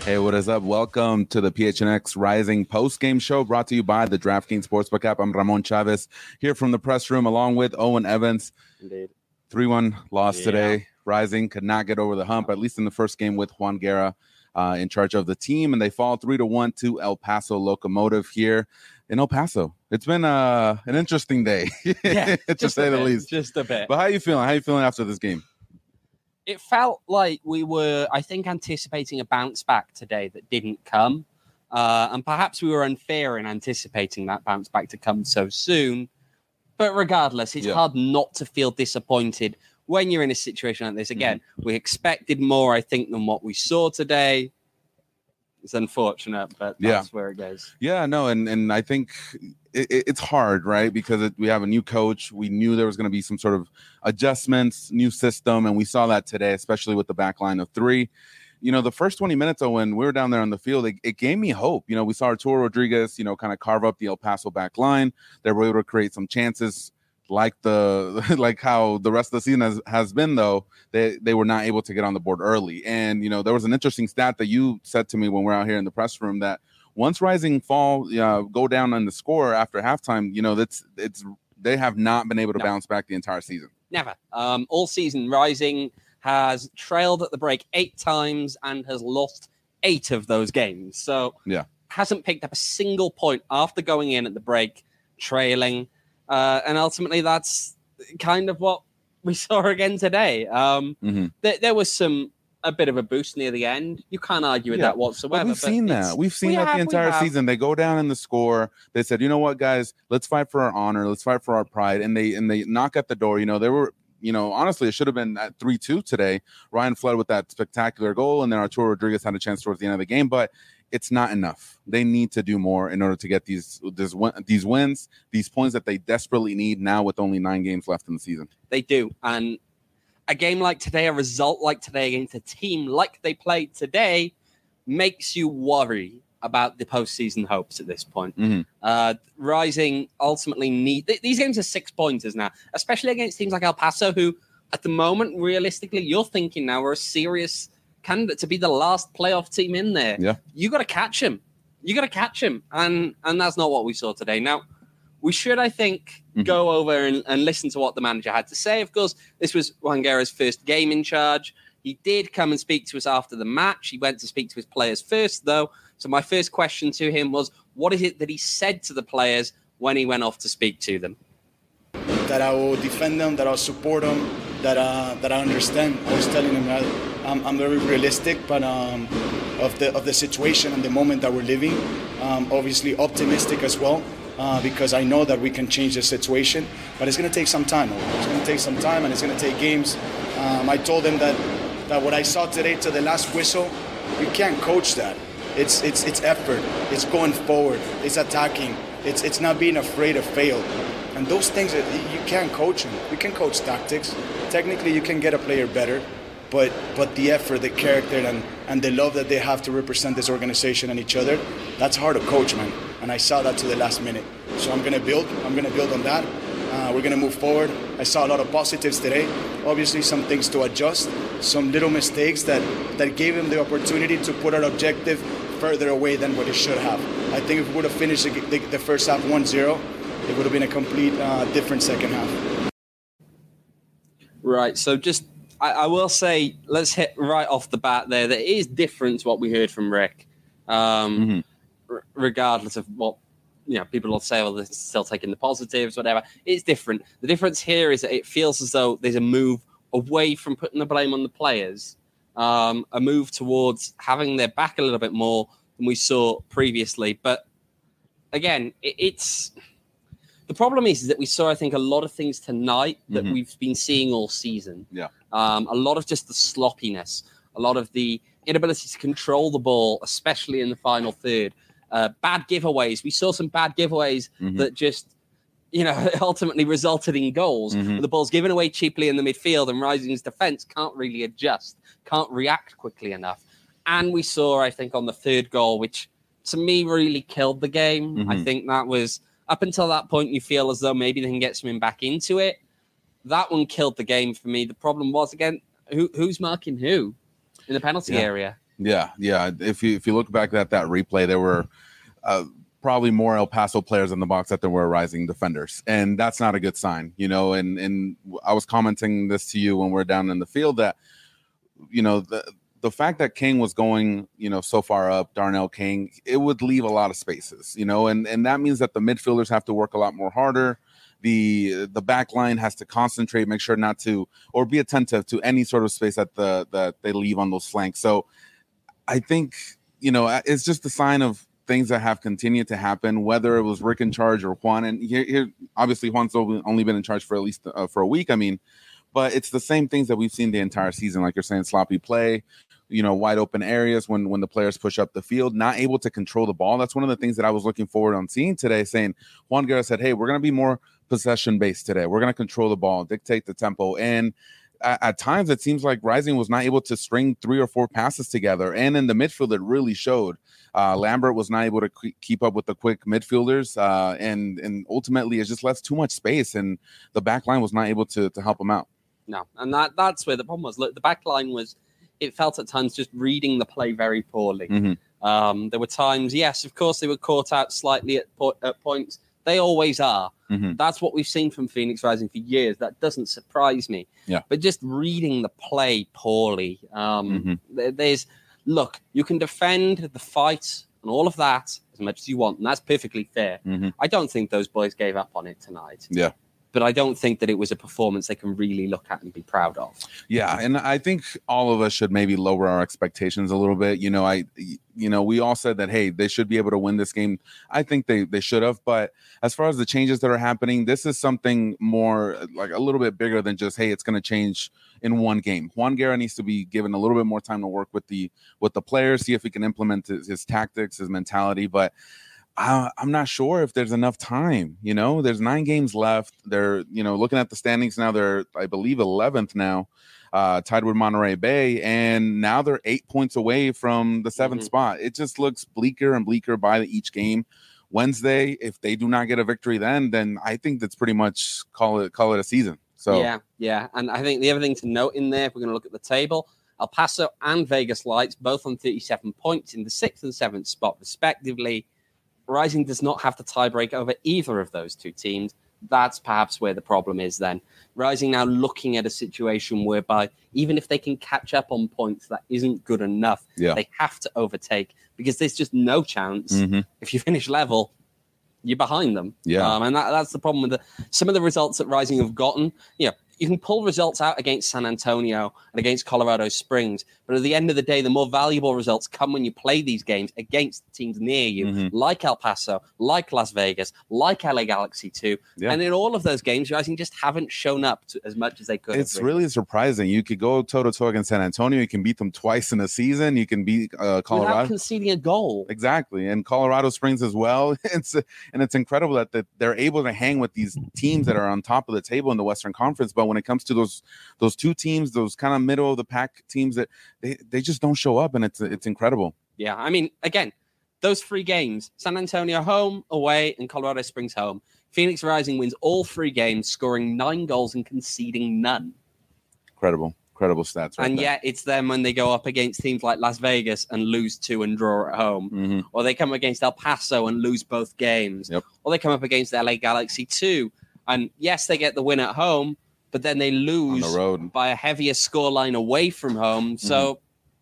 Hey, what is up? Welcome to the PHNX Rising post-game show brought to you by the DraftKings Sportsbook app. I'm Ramon Chavez here from the press room along with Owen Evans. Indeed. 3-1 loss today. Rising could not get over the hump, at least in the first game with Juan Guerra in charge of the team, and they fall 3-1 to El Paso Locomotive here in El Paso. It's been an interesting day, to say the least. Just a bit. But how are you feeling? How are you feeling after this game? It felt like we were, I think, anticipating a bounce back today that didn't come. And perhaps we were unfair in anticipating that bounce back to come so soon. But regardless, it's hard not to feel disappointed when you're in a situation like this. Again, we expected more, I think, than what we saw today. It's unfortunate, but that's where it goes. Yeah, no, and I think it's hard, right? Because we have a new coach. We knew there was going to be some sort of adjustments, new system, and we saw that today, especially with the back line of three. You know, the first 20 minutes when we were down there on the field, it gave me hope. You know, we saw Arturo Rodriguez, kind of carve up the El Paso back line. They were able to create some chances. Like how the rest of the season has been, though, they were not able to get on the board early. And, there was an interesting stat that you said to me when we're out here in the press room that once Rising go down on the score after halftime, they have not been able to bounce back the entire season. Never. All season, Rising has trailed at the break 8 times and has lost 8 of those games. So hasn't picked up a single point after going in at the break, trailing. And ultimately, that's kind of what we saw again today. There was a bit of a boost near the end. You can't argue with that whatsoever. But we've seen that the entire season. They go down in the score. They said, you know what, guys, let's fight for our honor. Let's fight for our pride. And they knock at the door. They were, honestly, it should have been at 3-2 today. Ryan fled with that spectacular goal, and then Arturo Rodriguez had a chance towards the end of the game. But it's not enough. They need to do more in order to get these wins, these points that they desperately need now with only 9 games left in the season. They do. And a game like today, a result like today against a team like they played today makes you worry about the postseason hopes at this point. Rising ultimately these games are 6-pointers now, especially against teams like El Paso, who at the moment, realistically, you're thinking now are a serious candidate to be the last playoff team in there. You got to catch him. And that's not what we saw today. Now, we should, I think, go over and listen to what the manager had to say. Of course, this was Juan Guerra's first game in charge. He did come and speak to us after the match. He went to speak to his players first, though. So my first question to him was, what is it that he said to the players when he went off to speak to them? That I will defend them, that I'll support them, that I understand. I was telling him that I'm very realistic, but of the situation and the moment that we're living. Obviously optimistic as well, because I know that we can change the situation, but it's going to take some time. It's going to take some time, and it's going to take games. I told him that what I saw today to the last whistle, you can't coach that. It's effort. It's going forward. It's attacking. It's not being afraid to fail. And those things, you can't coach them. You can coach tactics. Technically, you can get a player better, but the effort, the character, and the love that they have to represent this organization and each other, that's hard to coach, man. And I saw that to the last minute. So I'm going to build on that. We're going to move forward. I saw a lot of positives today. Obviously, some things to adjust, some little mistakes that gave him the opportunity to put our objective further away than what it should have. I think if we would have finished the first half 1-0, it would have been a complete different second half. Right, so just, I will say, let's hit right off the bat there, that it is different to what we heard from Rick. Regardless of what, people will say, well, they're still taking the positives, whatever. It's different. The difference here is that it feels as though there's a move away from putting the blame on the players, a move towards having their back a little bit more than we saw previously. But again, it's... The problem is that we saw, I think, a lot of things tonight that we've been seeing all season. A lot of just the sloppiness, a lot of the inability to control the ball, especially in the final third. Bad giveaways. We saw some bad giveaways that just, ultimately resulted in goals. The ball's given away cheaply in the midfield, and Rising's defense can't really adjust, can't react quickly enough. And we saw, I think, on the third goal, which to me really killed the game. I think that was... Up until that point, you feel as though maybe they can get something back into it. That one killed the game for me. The problem was, again, who's marking who in the penalty area? Yeah. If you look back at that replay, there were probably more El Paso players in the box that there were Rising defenders, and that's not a good sign, And I was commenting this to you when we're down in the field that the fact that King was going, so far up, Darnell King, it would leave a lot of spaces, and that means that the midfielders have to work a lot more harder. The back line has to concentrate, make sure not to, or be attentive to any sort of space that they leave on those flanks. So I think, it's just a sign of things that have continued to happen, whether it was Rick in charge or Juan. And here obviously Juan's only been in charge for at least for a week. I mean, but it's the same things that we've seen the entire season. Like you're saying, sloppy play, wide open areas when the players push up the field, not able to control the ball. That's one of the things that I was looking forward on seeing today, saying Juan Guerra said, hey, we're going to be more possession based today. We're going to control the ball, dictate the tempo. And at times it seems like Rising was not able to string 3 or 4 passes together. And in the midfield, it really showed. Lambert was not able to keep up with the quick midfielders, and ultimately it just left too much space, and the back line was not able to help him out. No, and that's where the problem was. Look, the back line it felt at times just reading the play very poorly. Mm-hmm. There were times, yes, of course, they were caught out slightly at points. They always are. Mm-hmm. That's what we've seen from Phoenix Rising for years. That doesn't surprise me. Yeah. But just reading the play poorly. Look, you can defend the fight and all of that as much as you want, and that's perfectly fair. Mm-hmm. I don't think those boys gave up on it tonight. Yeah. But I don't think that it was a performance they can really look at and be proud of. Yeah, and I think all of us should maybe lower our expectations a little bit. We all said that, hey, they should be able to win this game. I think they should have. But as far as the changes that are happening, this is something more like a little bit bigger than just, hey, it's going to change in one game. Juan Guerra needs to be given a little bit more time to work with the players, see if he can implement his tactics, his mentality. But I'm not sure if there's enough time. There's 9 games left. They're, looking at the standings now, they're, I believe, 11th now, tied with Monterey Bay. And now they're 8 points away from the 7th spot. It just looks bleaker and bleaker by each game. Wednesday, if they do not get a victory then I think that's pretty much call it a season. So Yeah. And I think the other thing to note in there, if we're going to look at the table, El Paso and Vegas Lights, both on 37 points in the 6th and 7th spot, respectively. Rising does not have the tiebreak over either of those two teams. That's perhaps where the problem is then. Rising now looking at a situation whereby even if they can catch up on points, that isn't good enough. Yeah. They have to overtake because there's just no chance. Mm-hmm. If you finish level, you're behind them. Yeah. And that's the problem with some of the results that Rising have gotten. You can pull results out against San Antonio and against Colorado Springs, but at the end of the day, the more valuable results come when you play these games against teams near you, like El Paso, like Las Vegas, like LA Galaxy 2. Yeah. And in all of those games, Rising just haven't shown up as much as they could. It's really surprising. You could go toe-to-toe against San Antonio. You can beat them twice in a season. You can beat Colorado. Without conceding a goal. Exactly. And Colorado Springs as well. It's incredible that they're able to hang with these teams that are on top of the table in the Western Conference. But when it comes to those two teams, those kind of middle of the pack teams, that they just don't show up, and it's incredible. Yeah, I mean, again, those 3 games: San Antonio home, away, and Colorado Springs home. Phoenix Rising wins all 3 games, scoring 9 goals and conceding none. Incredible stats. And yet it's them when they go up against teams like Las Vegas and lose 2 and draw at home, or they come against El Paso and lose both games, or they come up against LA Galaxy 2, and yes, they get the win at home, but then they lose on the road by a heavier scoreline away from home. So,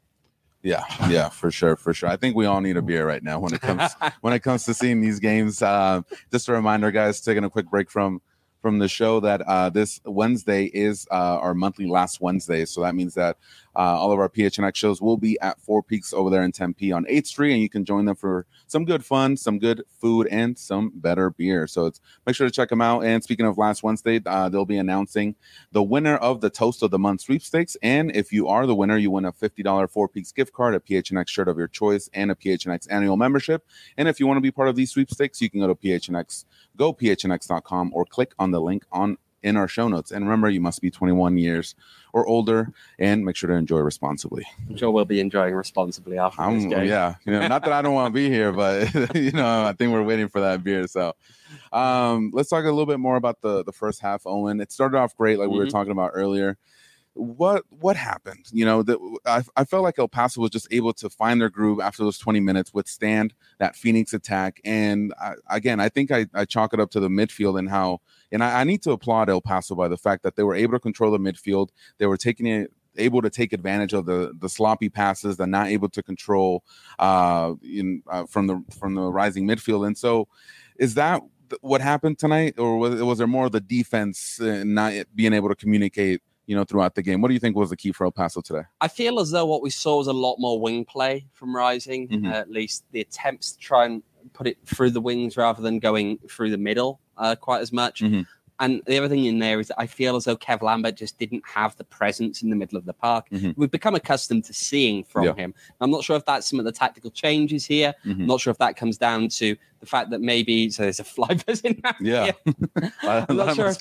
yeah, for sure. I think we all need a beer right now when it comes to seeing these games. Just a reminder, guys, taking a quick break from the show, that this Wednesday is our monthly Last Wednesday. So that means that all of our PHNX shows will be at Four Peaks over there in Tempe on 8th Street, and you can join them for some good fun, some good food, and some better beer. So make sure to check them out. And speaking of Last Wednesday, they'll be announcing the winner of the Toast of the Month sweepstakes. And if you are the winner, you win a $50 Four Peaks gift card, a PHNX shirt of your choice, and a PHNX annual membership. And if you want to be part of these sweepstakes, you can go to PHNX.com or click on the link in our show notes. And remember, you must be 21 years or older, and make sure to enjoy responsibly. I'm sure we'll be enjoying responsibly after this game. Yeah, not that I don't want to be here, but I think we're waiting for that beer. So let's talk a little bit more about the first half, Owen. It started off great, like we were talking about earlier. what happened? I felt like El Paso was just able to find their groove after those 20 minutes, withstand that Phoenix attack. And I think I chalk it up to the midfield and how, and I need to applaud El Paso by the fact that they were able to control the midfield. They were able to take advantage of the sloppy passes, the not able to control from the rising midfield. And so is that what happened tonight, or was there more of the defense not being able to communicate throughout the game? What do you think was the key for El Paso today? I feel as though what we saw was a lot more wing play from Rising, at least the attempts to try and put it through the wings rather than going through the middle quite as much. And the other thing in there is that I feel as though Kev Lambert just didn't have the presence in the middle of the park. We've become accustomed to seeing from him. I'm not sure if that's some of the tactical changes here. I'm not sure if that comes down to the fact that maybe, so there's a fly buzzing out here. I'm not sure if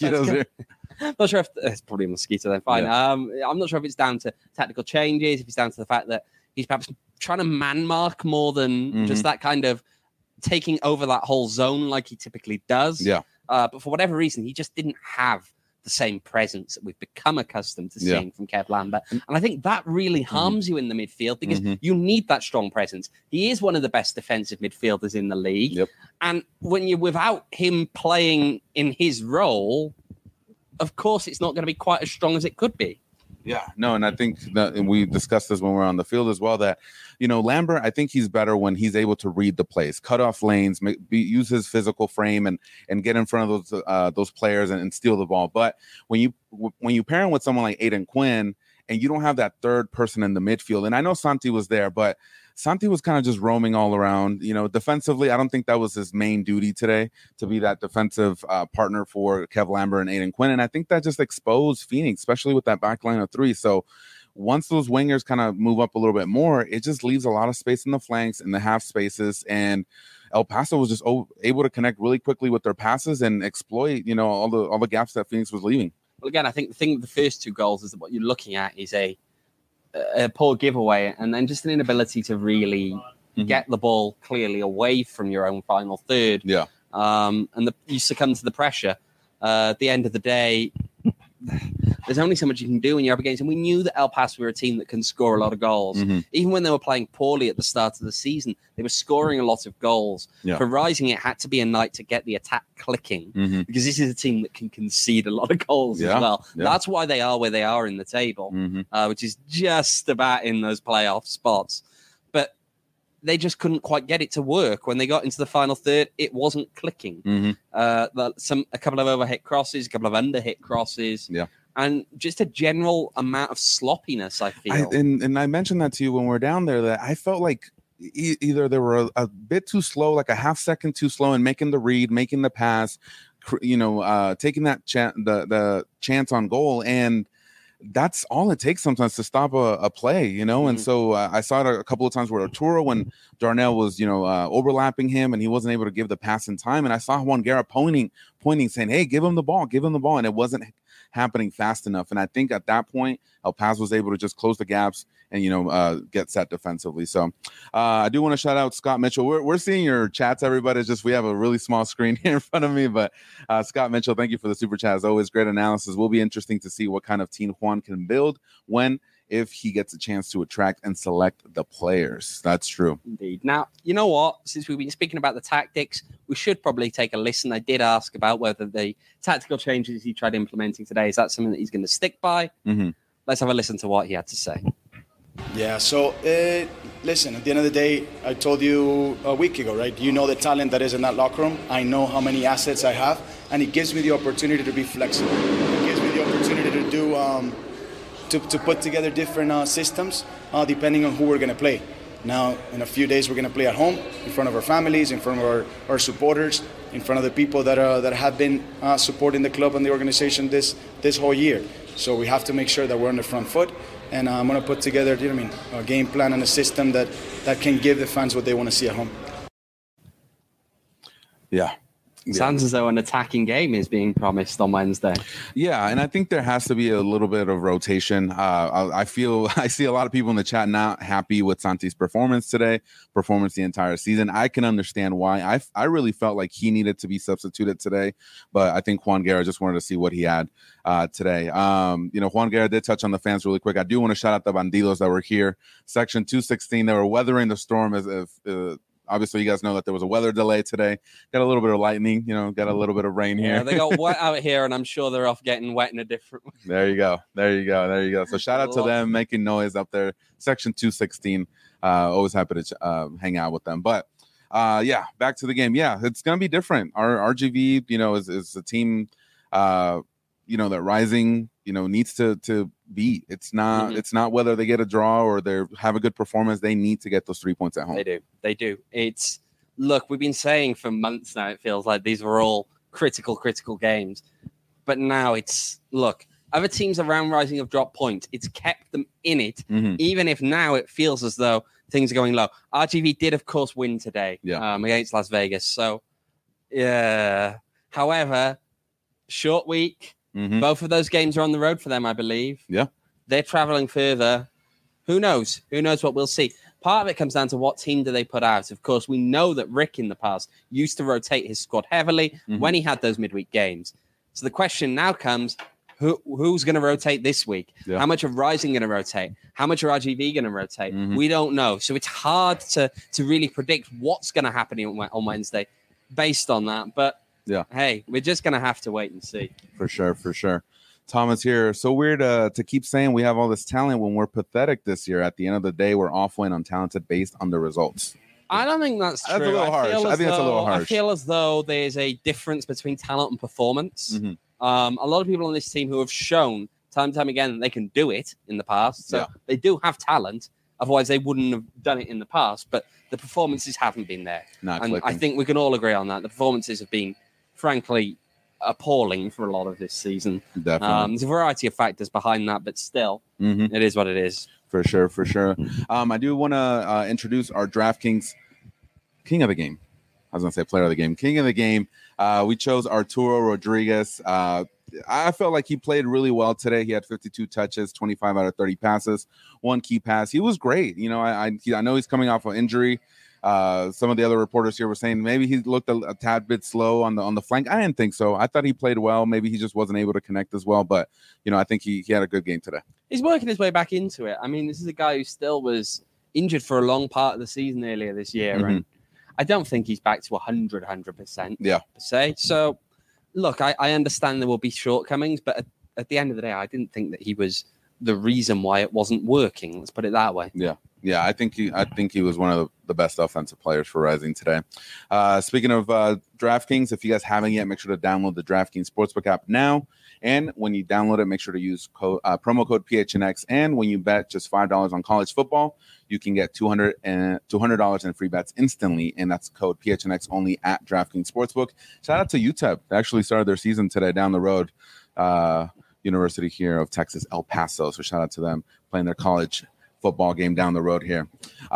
not sure if it's probably a mosquito then, fine. I'm not sure if it's down to tactical changes, if it's down to the fact that he's perhaps trying to man mark more than just that kind of taking over that whole zone like he typically does. But for whatever reason, he just didn't have the same presence that we've become accustomed to seeing from Kev Lambert. And I think that really harms you in the midfield because you need that strong presence. He is one of the best defensive midfielders in the league. And when you're without him playing in his role, of course, it's not going to be quite as strong as it could be. Yeah, no, and I think that, and we discussed this when we were on the field as well, that, Lambert, I think he's better when he's able to read the plays, cut off lanes, use his physical frame and get in front of those players and steal the ball. But when you pair him with someone like Aiden Quinn and you don't have that third person in the midfield, and I know Santi was there, but Santi was kind of just roaming all around. Defensively, I don't think that was his main duty today, to be that defensive partner for Kev Lambert and Aiden Quinn. And I think that just exposed Phoenix, especially with that back line of three. So once those wingers kind of move up a little bit more, it just leaves a lot of space in the flanks and the half spaces. And El Paso was just able to connect really quickly with their passes and exploit, all the gaps that Phoenix was leaving. Well, again, I think the thing with the first two goals is that what you're looking at is a poor giveaway, and then just an inability to really get the ball clearly away from your own final third. And you succumb to the pressure. At the end of the day, there's only so much you can do when you're up against. And we knew that El Paso were a team that can score a lot of goals. Even when they were playing poorly at the start of the season, they were scoring a lot of goals. For Rising, it had to be a night to get the attack clicking because this is a team that can concede a lot of goals as well. That's why they are where they are in the table, which is just about in those playoff spots. But they just couldn't quite get it to work. When they got into the final third, it wasn't clicking. A couple of overhit crosses, a couple of underhit crosses. And just a general amount of sloppiness, I feel. And I mentioned that to you when we were down there, that I felt like either they were a bit too slow, like a half second too slow in making the read, making the pass, taking that the chance on goal. And that's all it takes sometimes to stop a play, And so I saw it a couple of times where Arturo, when Darnell was, overlapping him and he wasn't able to give the pass in time. And I saw Juan Guerra pointing, saying, hey, give him the ball. And it wasn't happening fast enough. And I think at that point, El Paso was able to just close the gaps and, get set defensively. So I do want to shout out Scott Mitchell. We're seeing your chats, everybody. It's just we have a really small screen here in front of me. But Scott Mitchell, thank you for the super chat. As always, great analysis. Will be interesting to see what kind of team Juan can build if he gets a chance to attract and select the players. That's true. Indeed. Now, you know what? Since we've been speaking about the tactics, we should probably take a listen. I did ask about whether the tactical changes he tried implementing today, is that something that he's going to stick by? Let's have a listen to what he had to say. Yeah, so listen, at the end of the day, I told you a week ago, right? You know the talent that is in that locker room. I know how many assets I have, and it gives me the opportunity to be flexible. It gives me the opportunity to do to put together different systems depending on who we're going to play. Now, in a few days, we're going to play at home, in front of our families, in front of our supporters, in front of the people that have been supporting the club and the organization this whole year. So we have to make sure that we're on the front foot. And I'm going to put together, a game plan and a system that can give the fans what they want to see at home. Yeah. Sounds as though an attacking game is being promised on Wednesday. Yeah, and I think there has to be a little bit of rotation. I see a lot of people in the chat not happy with Santi's performance today, performance the entire season. I can understand why. I really felt like he needed to be substituted today, but I think Juan Guerra just wanted to see what he had today. Juan Guerra did touch on the fans really quick. I do want to shout out the Bandidos that were here. Section 216, they were weathering the storm as if obviously you guys know that there was a weather delay today. Got a little bit of lightning, got a little bit of rain here. Yeah, they got wet out here, and I'm sure they're off getting wet in a different way. There you go. So shout out to them making noise up there. Section 216. Always happy to hang out with them. But back to the game. Yeah, it's gonna be different. Our RGV, is a team that Rising, needs to beat. It's not whether they get a draw or they have a good performance. They need to get those 3 points at home. They do. Look, we've been saying for months now, it feels like these were all critical games. But now other teams around Rising have dropped points. It's kept them in it, even if now it feels as though things are going low. RGV did, of course, win today against Las Vegas. So, yeah. However, short week. Both of those games are on the road for them, I believe. Yeah. They're traveling further. Who knows? Who knows what we'll see? Part of it comes down to what team do they put out. Of course, we know that Rick in the past used to rotate his squad heavily when he had those midweek games. So the question now comes, who's going to rotate this week? Yeah. How much are Rising going to rotate? How much are RGV going to rotate? We don't know. So it's hard to really predict what's going to happen on Wednesday based on that. But yeah, hey, we're just going to have to wait and see. For sure. Thomas here. So weird to keep saying we have all this talent when we're pathetic this year. At the end of the day, we're off-win untalented based on the results. I don't think that's true. That's a little harsh. I think that's a little harsh. I feel as though there's a difference between talent and performance. A lot of people on this team who have shown time and time again that they can do it in the past. So they do have talent. Otherwise, they wouldn't have done it in the past. But the performances haven't been there. I think we can all agree on that. The performances have been, frankly, appalling for a lot of this season. Definitely. There's a variety of factors behind that, but still, it is what it is. For sure. I do want to introduce our DraftKings King of the Game. I was going to say player of the game. King of the game. We chose Arturo Rodriguez. I felt like he played really well today. He had 52 touches, 25 out of 30 passes, one key pass. He was great. I know he's coming off an injury. Some of the other reporters here were saying maybe he looked a tad bit slow on the flank. I didn't think so. I thought he played well. Maybe he just wasn't able to connect as well. But, I think he had a good game today. He's working his way back into it. I mean, this is a guy who still was injured for a long part of the season earlier this year. And I don't think he's back to 100%. Yeah. Per se. So, look, I understand there will be shortcomings. But at the end of the day, I didn't think that he was the reason why it wasn't working. Let's put it that way. Yeah, I think he was one of the best offensive players for Rising today. Speaking of DraftKings, if you guys haven't yet, make sure to download the DraftKings Sportsbook app now. And when you download it, make sure to use promo code PHNX. And when you bet just $5 on college football, you can get $200 in free bets instantly. And that's code PHNX only at DraftKings Sportsbook. Shout out to UTEP. They actually started their season today down the road. University here of Texas, El Paso. So shout out to them playing their college football game down the road here.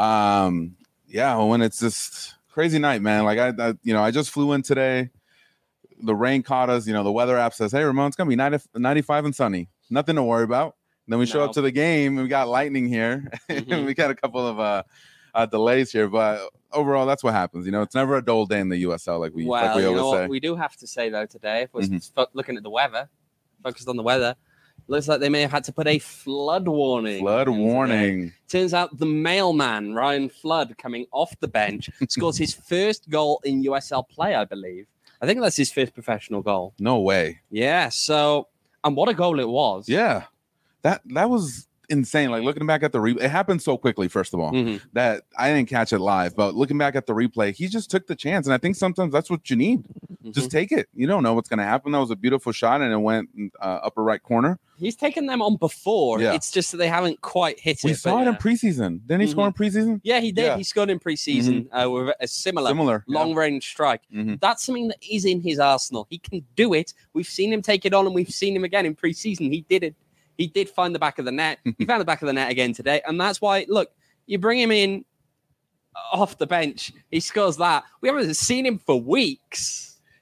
When it's just crazy night, man. Like I just flew in today. The rain caught us. The weather app says, "Hey, Ramon, it's gonna be 95 and sunny. Nothing to worry about." And then we show up to the game and we got lightning here. We got a couple of delays here, but overall, that's what happens. It's never a dull day in the USL, like we always say. We do have to say though today, if we're looking at the weather, focused on the weather. Looks like they may have had to put a flood warning. Turns out the mailman, Ryan Flood, coming off the bench, scores his first goal in USL play, I believe. I think that's his first professional goal. No way. Yeah, and what a goal it was. Yeah, that was insane. Like looking back at the replay, it happened so quickly, first of all, that I didn't catch it live. But looking back at the replay, he just took the chance. And I think sometimes that's what you need. Just take it. You don't know what's going to happen. That was a beautiful shot, and it went upper right corner. He's taken them on before. Yeah. It's just that they haven't quite hit it. We saw it in preseason. Didn't he score in preseason? Yeah, he did. Yeah. He scored in preseason with a similar long-range strike. That's something that is in his arsenal. He can do it. We've seen him take it on, and we've seen him again in preseason. He did it. He did find the back of the net. He found the back of the net again today. And that's why, look, you bring him in off the bench. He scores that. We haven't seen him for weeks.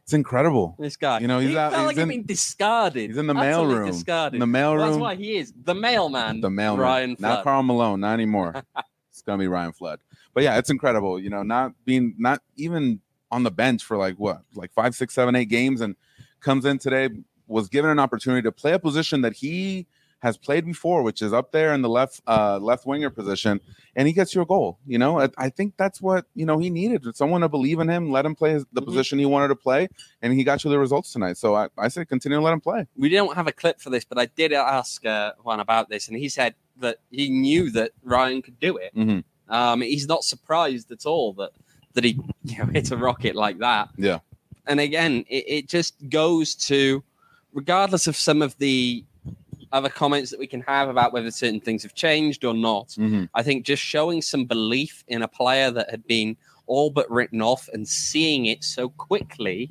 It's incredible. This guy, You know, he felt like he's been discarded. He's in the Utterly mailroom. Discarded. In the mailroom. Well, that's why he is the mailman. The mailman. Ryan Flood. Not Karl Malone, not anymore. It's gonna be Ryan Flood. But yeah, it's incredible. You know, not even on the bench for like 5, 6, 7, 8 games, and comes in today, was given an opportunity to play a position that he has played before, which is up there in the left winger position, and he gets you a goal. You know, I think that's what, you know, he needed, someone to believe in him, let him play the position he wanted to play, and he got you the results tonight. So I say continue to let him play. We don't have a clip for this, but I did ask Juan about this, and he said that he knew that Ryan could do it. He's not surprised at all that he, you know, hits a rocket like that. Yeah. And again, it just goes to, regardless of some of the other comments that we can have about whether certain things have changed or not, I think just showing some belief in a player that had been all but written off and seeing it so quickly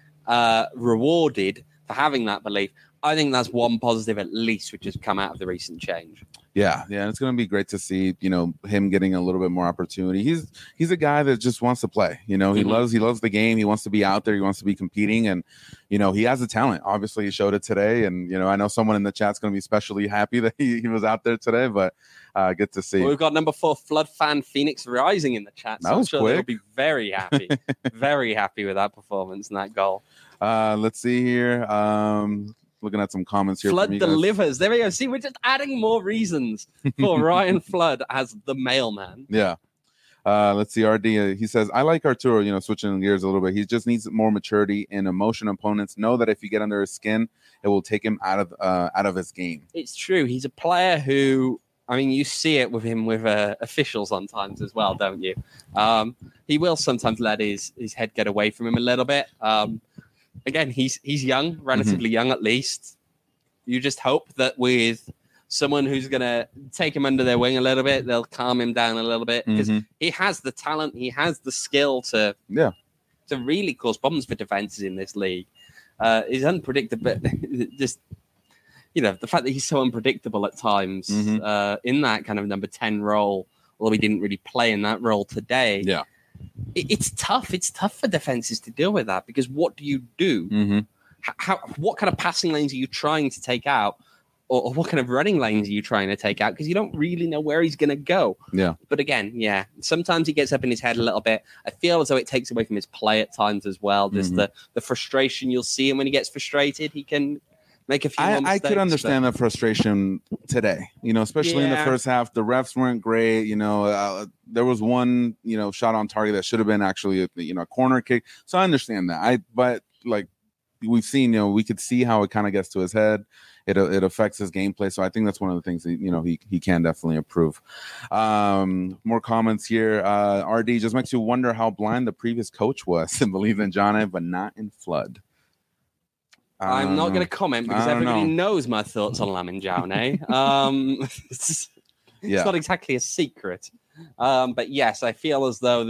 rewarded for having that belief, I think that's one positive at least which has come out of the recent change. Yeah, and it's going to be great to see, you know, him getting a little bit more opportunity. He's a guy that just wants to play. You know, he loves the game. He wants to be out there. He wants to be competing, and you know, he has the talent. Obviously, he showed it today, and you know, I know someone in the chat's going to be especially happy that he was out there today. But good to see. Well, we've got number 4 Flood fan Phoenix Rising in the chat. So that was I'm sure quick. they'll be very happy, very happy with that performance and that goal. Let's see here. Looking at some comments here. Flood delivers. There we go. See, we're just adding more reasons for Ryan Flood as the mailman. Yeah. Let's see. RD, he says, I like Arturo, you know, switching gears a little bit. He just needs more maturity and emotion. Opponents know that if you get under his skin, it will take him out of his game. It's true. He's a player who, I mean, you see it with him with officials sometimes as well, don't you? He will sometimes let his head get away from him a little bit. Again, he's young, relatively young at least. You just hope that with someone who's going to take him under their wing a little bit, they'll calm him down a little bit, because he has the talent, he has the skill to really cause problems for defenses in this league. He's unpredictable. Just, you know, the fact that he's so unpredictable at times in that kind of number 10 role, although he didn't really play in that role today. Yeah. It's tough. It's tough for defenses to deal with that, because what do you do? What kind of passing lanes are you trying to take out, or what kind of running lanes are you trying to take out? Because you don't really know where he's going to go. Yeah. But again, sometimes he gets up in his head a little bit. I feel as though it takes away from his play at times as well. Just the frustration you'll see him when he gets frustrated. He can make a few more mistakes. I could understand the frustration today, you know, especially in the first half. The refs weren't great. You know, there was one, you know, shot on target that should have been actually, a corner kick. So I understand that. But like we've seen, you know, we could see how it kind of gets to his head. It affects his gameplay. So I think that's one of the things that, you know, he can definitely improve. More comments here. RD just makes you wonder how blind the previous coach was and believe in John, but not in Flood. I'm not going to comment because everybody knows my thoughts on Lamin Jaune. It's not exactly a secret. But yes, I feel as though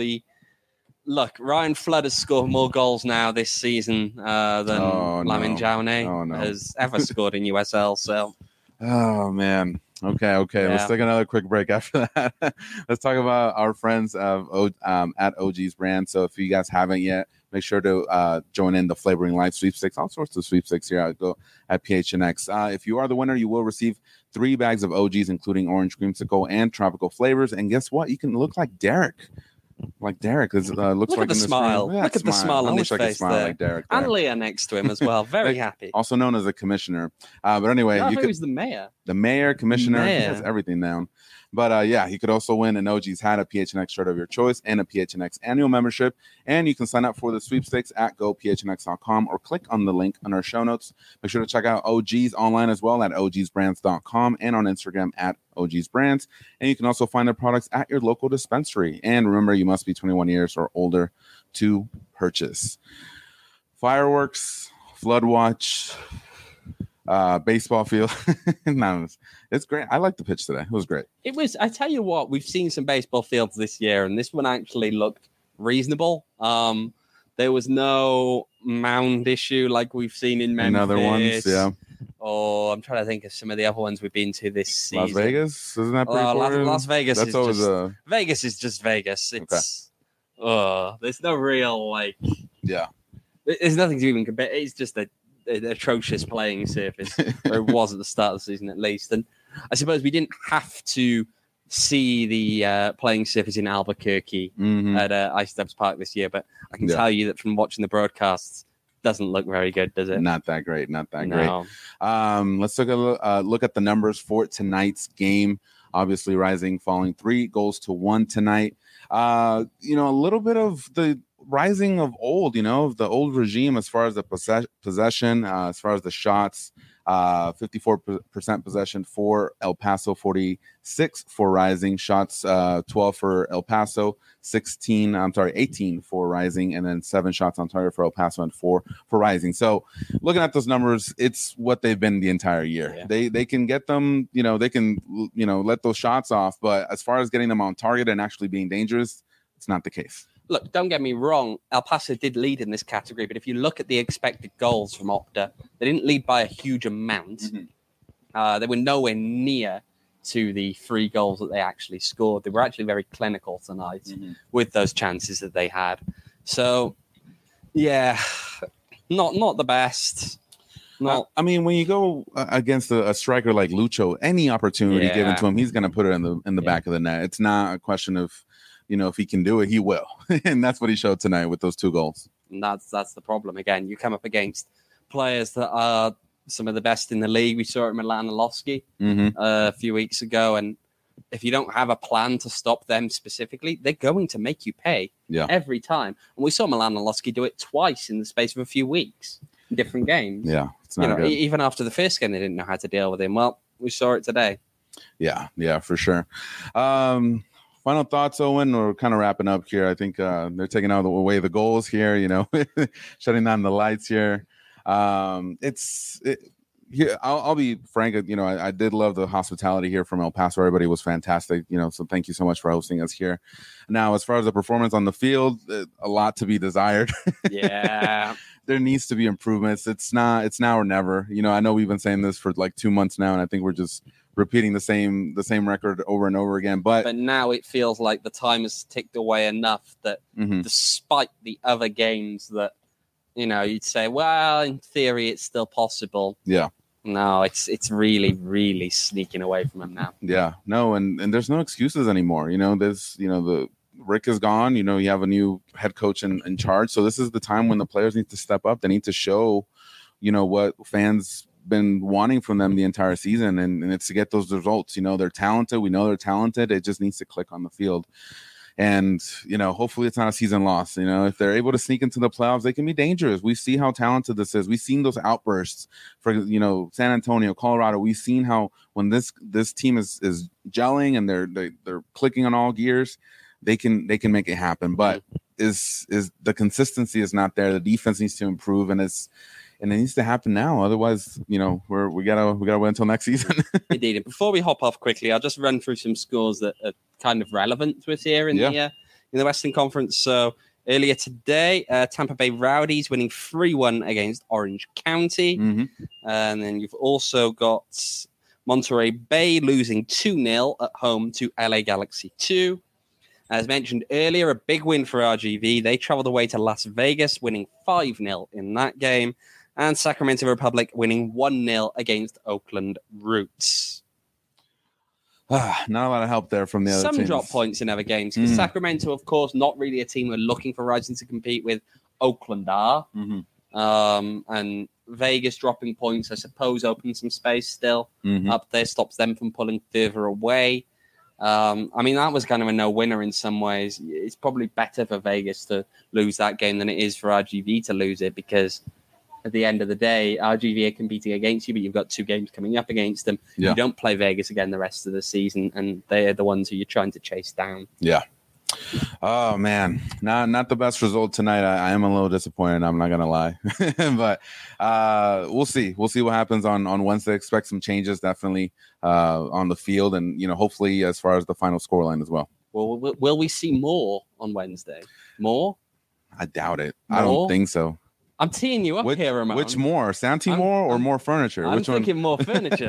Ryan Flood has scored more goals now this season than Lamin Jaune has ever scored in USL. So, oh man. Okay. Let's take another quick break after that. Let's talk about our friends at OG's Brand. So if you guys haven't yet, make sure to join in the Flavoring Life sweepstakes, all sorts of sweepstakes here at PHNX. If you are the winner, you will receive 3 bags of OGs, including orange creamsicle and tropical flavors. And guess what? You can look like Derek. Looks look like at the smile. Look at the smile on his face there. Like Derek and Leah next to him as well. Very happy. Also known as a commissioner. But anyway, he's the mayor. The mayor, commissioner, he has everything down. But he could also win an OG's hat, a PHNX shirt of your choice, and a PHNX annual membership. And you can sign up for the sweepstakes at gophnx.com or click on the link on our show notes. Make sure to check out OG's online as well at ogsbrands.com and on Instagram at ogsbrands. And you can also find their products at your local dispensary. And remember, you must be 21 years or older to purchase. Fireworks, Flood Watch, baseball field. No, it's great. I liked the pitch today. It was great. It was. I tell you what, we've seen some baseball fields this year, and this one actually looked reasonable. There was no mound issue like we've seen in Memphis. Other ones, yeah. Or I'm trying to think of some of the other ones we've been to this season. Las Vegas, isn't that pretty cool? Las Vegas. That's always just, Vegas is just Vegas. It's there's no real There's nothing to even compare. It's just an atrocious playing surface, or it was at the start of the season at least. And I suppose we didn't have to see the playing surface in Albuquerque at Ice Dubs Park this year, but I can tell you that from watching the broadcasts, doesn't look very good, does it? Not that great. Not that great. Let's look at the numbers for tonight's game. Obviously, Rising falling 3-1 tonight. A little bit of the Rising of old, of the old regime as far as the possession, as far as the shots. 54% possession for El Paso, 46 for Rising. Shots 12 for El Paso, 18 for Rising, and then 7 shots on target for El Paso and 4 for Rising. So looking at those numbers, it's what they've been the entire year. Yeah. They can get them, they can let those shots off, but as far as getting them on target and actually being dangerous, it's not the case. Look, don't get me wrong. El Paso did lead in this category, but if you look at the expected goals from Opta, they didn't lead by a huge amount. They were nowhere near to the 3 goals that they actually scored. They were actually very clinical tonight with those chances that they had. So, yeah, not the best. When you go against a striker like Lucho, any opportunity given to him, he's going to put it in the back of the net. It's not a question of, if he can do it, he will. And that's what he showed tonight with those 2 goals. And that's the problem. Again, you come up against players that are some of the best in the league. We saw it in Milan Losky a few weeks ago. And if you don't have a plan to stop them specifically, they're going to make you pay every time. And we saw Milan Losky do it twice in the space of a few weeks in different games. Yeah, it's not good. Even after the first game, they didn't know how to deal with him. Well, we saw it today. Yeah, for sure. Final thoughts, Owen. We're kind of wrapping up here. I think they're taking out away the goals here, shutting down the lights here. I'll be frank. I did love the hospitality here from El Paso. Everybody was fantastic. So thank you so much for hosting us here. Now, as far as the performance on the field, a lot to be desired. Yeah. There needs to be improvements. It's now or never. I know we've been saying this for like 2 months now, and I think we're just repeating the same record over and over again. But now it feels like the time has ticked away enough that despite the other games that, you'd say, well, in theory, it's still possible. Yeah. No, it's really, really sneaking away from them now. Yeah. No, and there's no excuses anymore. There's, the Rick is gone. You have a new head coach in charge. So this is the time when the players need to step up. They need to show, what fans been wanting from them the entire season, and it's to get those results. They're talented. We know they're talented. It just needs to click on the field. And, hopefully it's not a season loss. If they're able to sneak into the playoffs, they can be dangerous. We see how talented this is. We've seen those outbursts for, San Antonio, Colorado. We've seen how when this team is gelling and they're clicking on all gears, they can make it happen. But is the consistency is not there. The defense needs to improve, and it needs to happen now. Otherwise, we gotta wait until next season. Indeed. And before we hop off quickly, I'll just run through some scores that are kind of relevant to us here in the Western Conference. So earlier today, Tampa Bay Rowdies winning 3-1 against Orange County, and then you've also got Monterey Bay losing 2-0 at home to LA Galaxy 2. As mentioned earlier, a big win for RGV. They traveled away to Las Vegas, winning 5-0 in that game. And Sacramento Republic winning 1-0 against Oakland Roots. Not a lot of help there from the other teams. Some drop points in other games. Because Sacramento, of course, not really a team we're looking for Rising to compete with. Oakland are. And Vegas dropping points, I suppose, opens some space still up there, stops them from pulling further away. That was kind of a no-winner in some ways. It's probably better for Vegas to lose that game than it is for RGV to lose it, because at the end of the day, RGV are competing against you, but you've got 2 games coming up against them. You don't play Vegas again the rest of the season, and they're the ones who you're trying to chase down. Yeah. Oh man, not the best result tonight. I am a little disappointed. I'm not gonna lie, but we'll see. We'll see what happens on Wednesday. Expect some changes definitely on the field, and hopefully as far as the final scoreline as well. Well, will we see more on Wednesday? More? I doubt it. More? I don't think so. I'm teeing you up here, Ramon. Which more? Santi more or more furniture? I'm thinking more furniture.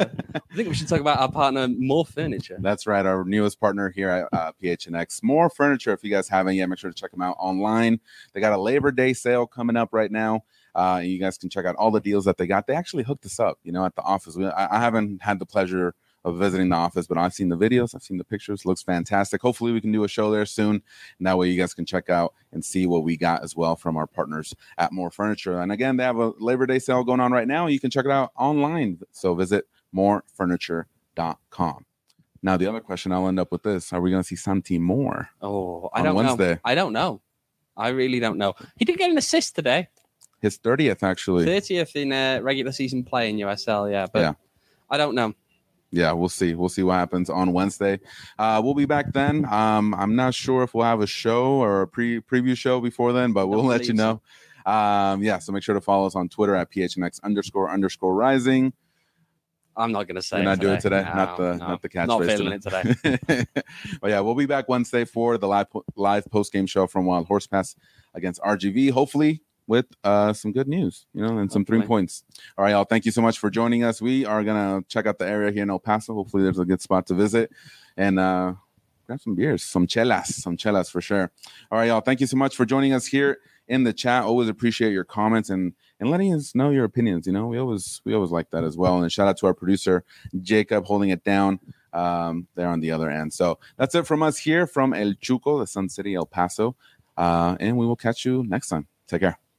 I think we should talk about our partner, More Furniture. That's right. Our newest partner here at PHNX. More Furniture. If you guys haven't yet, make sure to check them out online. They got a Labor Day sale coming up right now. You guys can check out all the deals that they got. They actually hooked us up, at the office. I haven't had the pleasure of visiting the office, but I've seen the videos. I've seen the pictures. Looks fantastic. Hopefully we can do a show there soon. And that way you guys can check out and see what we got as well from our partners at More Furniture. And again, they have a Labor Day sale going on right now. You can check it out online. So visit morefurniture.com. Now, the other question, I'll end up with this. Are we going to see Santi Moore? I don't know. I don't know. I really don't know. He did get an assist today. His 30th, actually. 30th in regular season play in USL, yeah. But I don't know. Yeah, we'll see. We'll see what happens on Wednesday. We'll be back then. I'm not sure if we'll have a show or a preview show before then, but we'll let you know. So make sure to follow us on Twitter at PHNX__rising. I'm not going to say You're not doing it today? No, not the catchphrase. Not feeling it today. But yeah, we'll be back Wednesday for the live post-game show from Wild Horse Pass against RGV. Hopefully with some good news, and some 3 points. All right, y'all. Thank you so much for joining us. We are going to check out the area here in El Paso. Hopefully there's a good spot to visit and grab some beers, some chelas for sure. All right, y'all. Thank you so much for joining us here in the chat. Always appreciate your comments and letting us know your opinions. We always like that as well. And shout out to our producer, Jacob, holding it down there on the other end. So that's it from us here from El Chuco, the Sun City, El Paso. And we will catch you next time. Take care.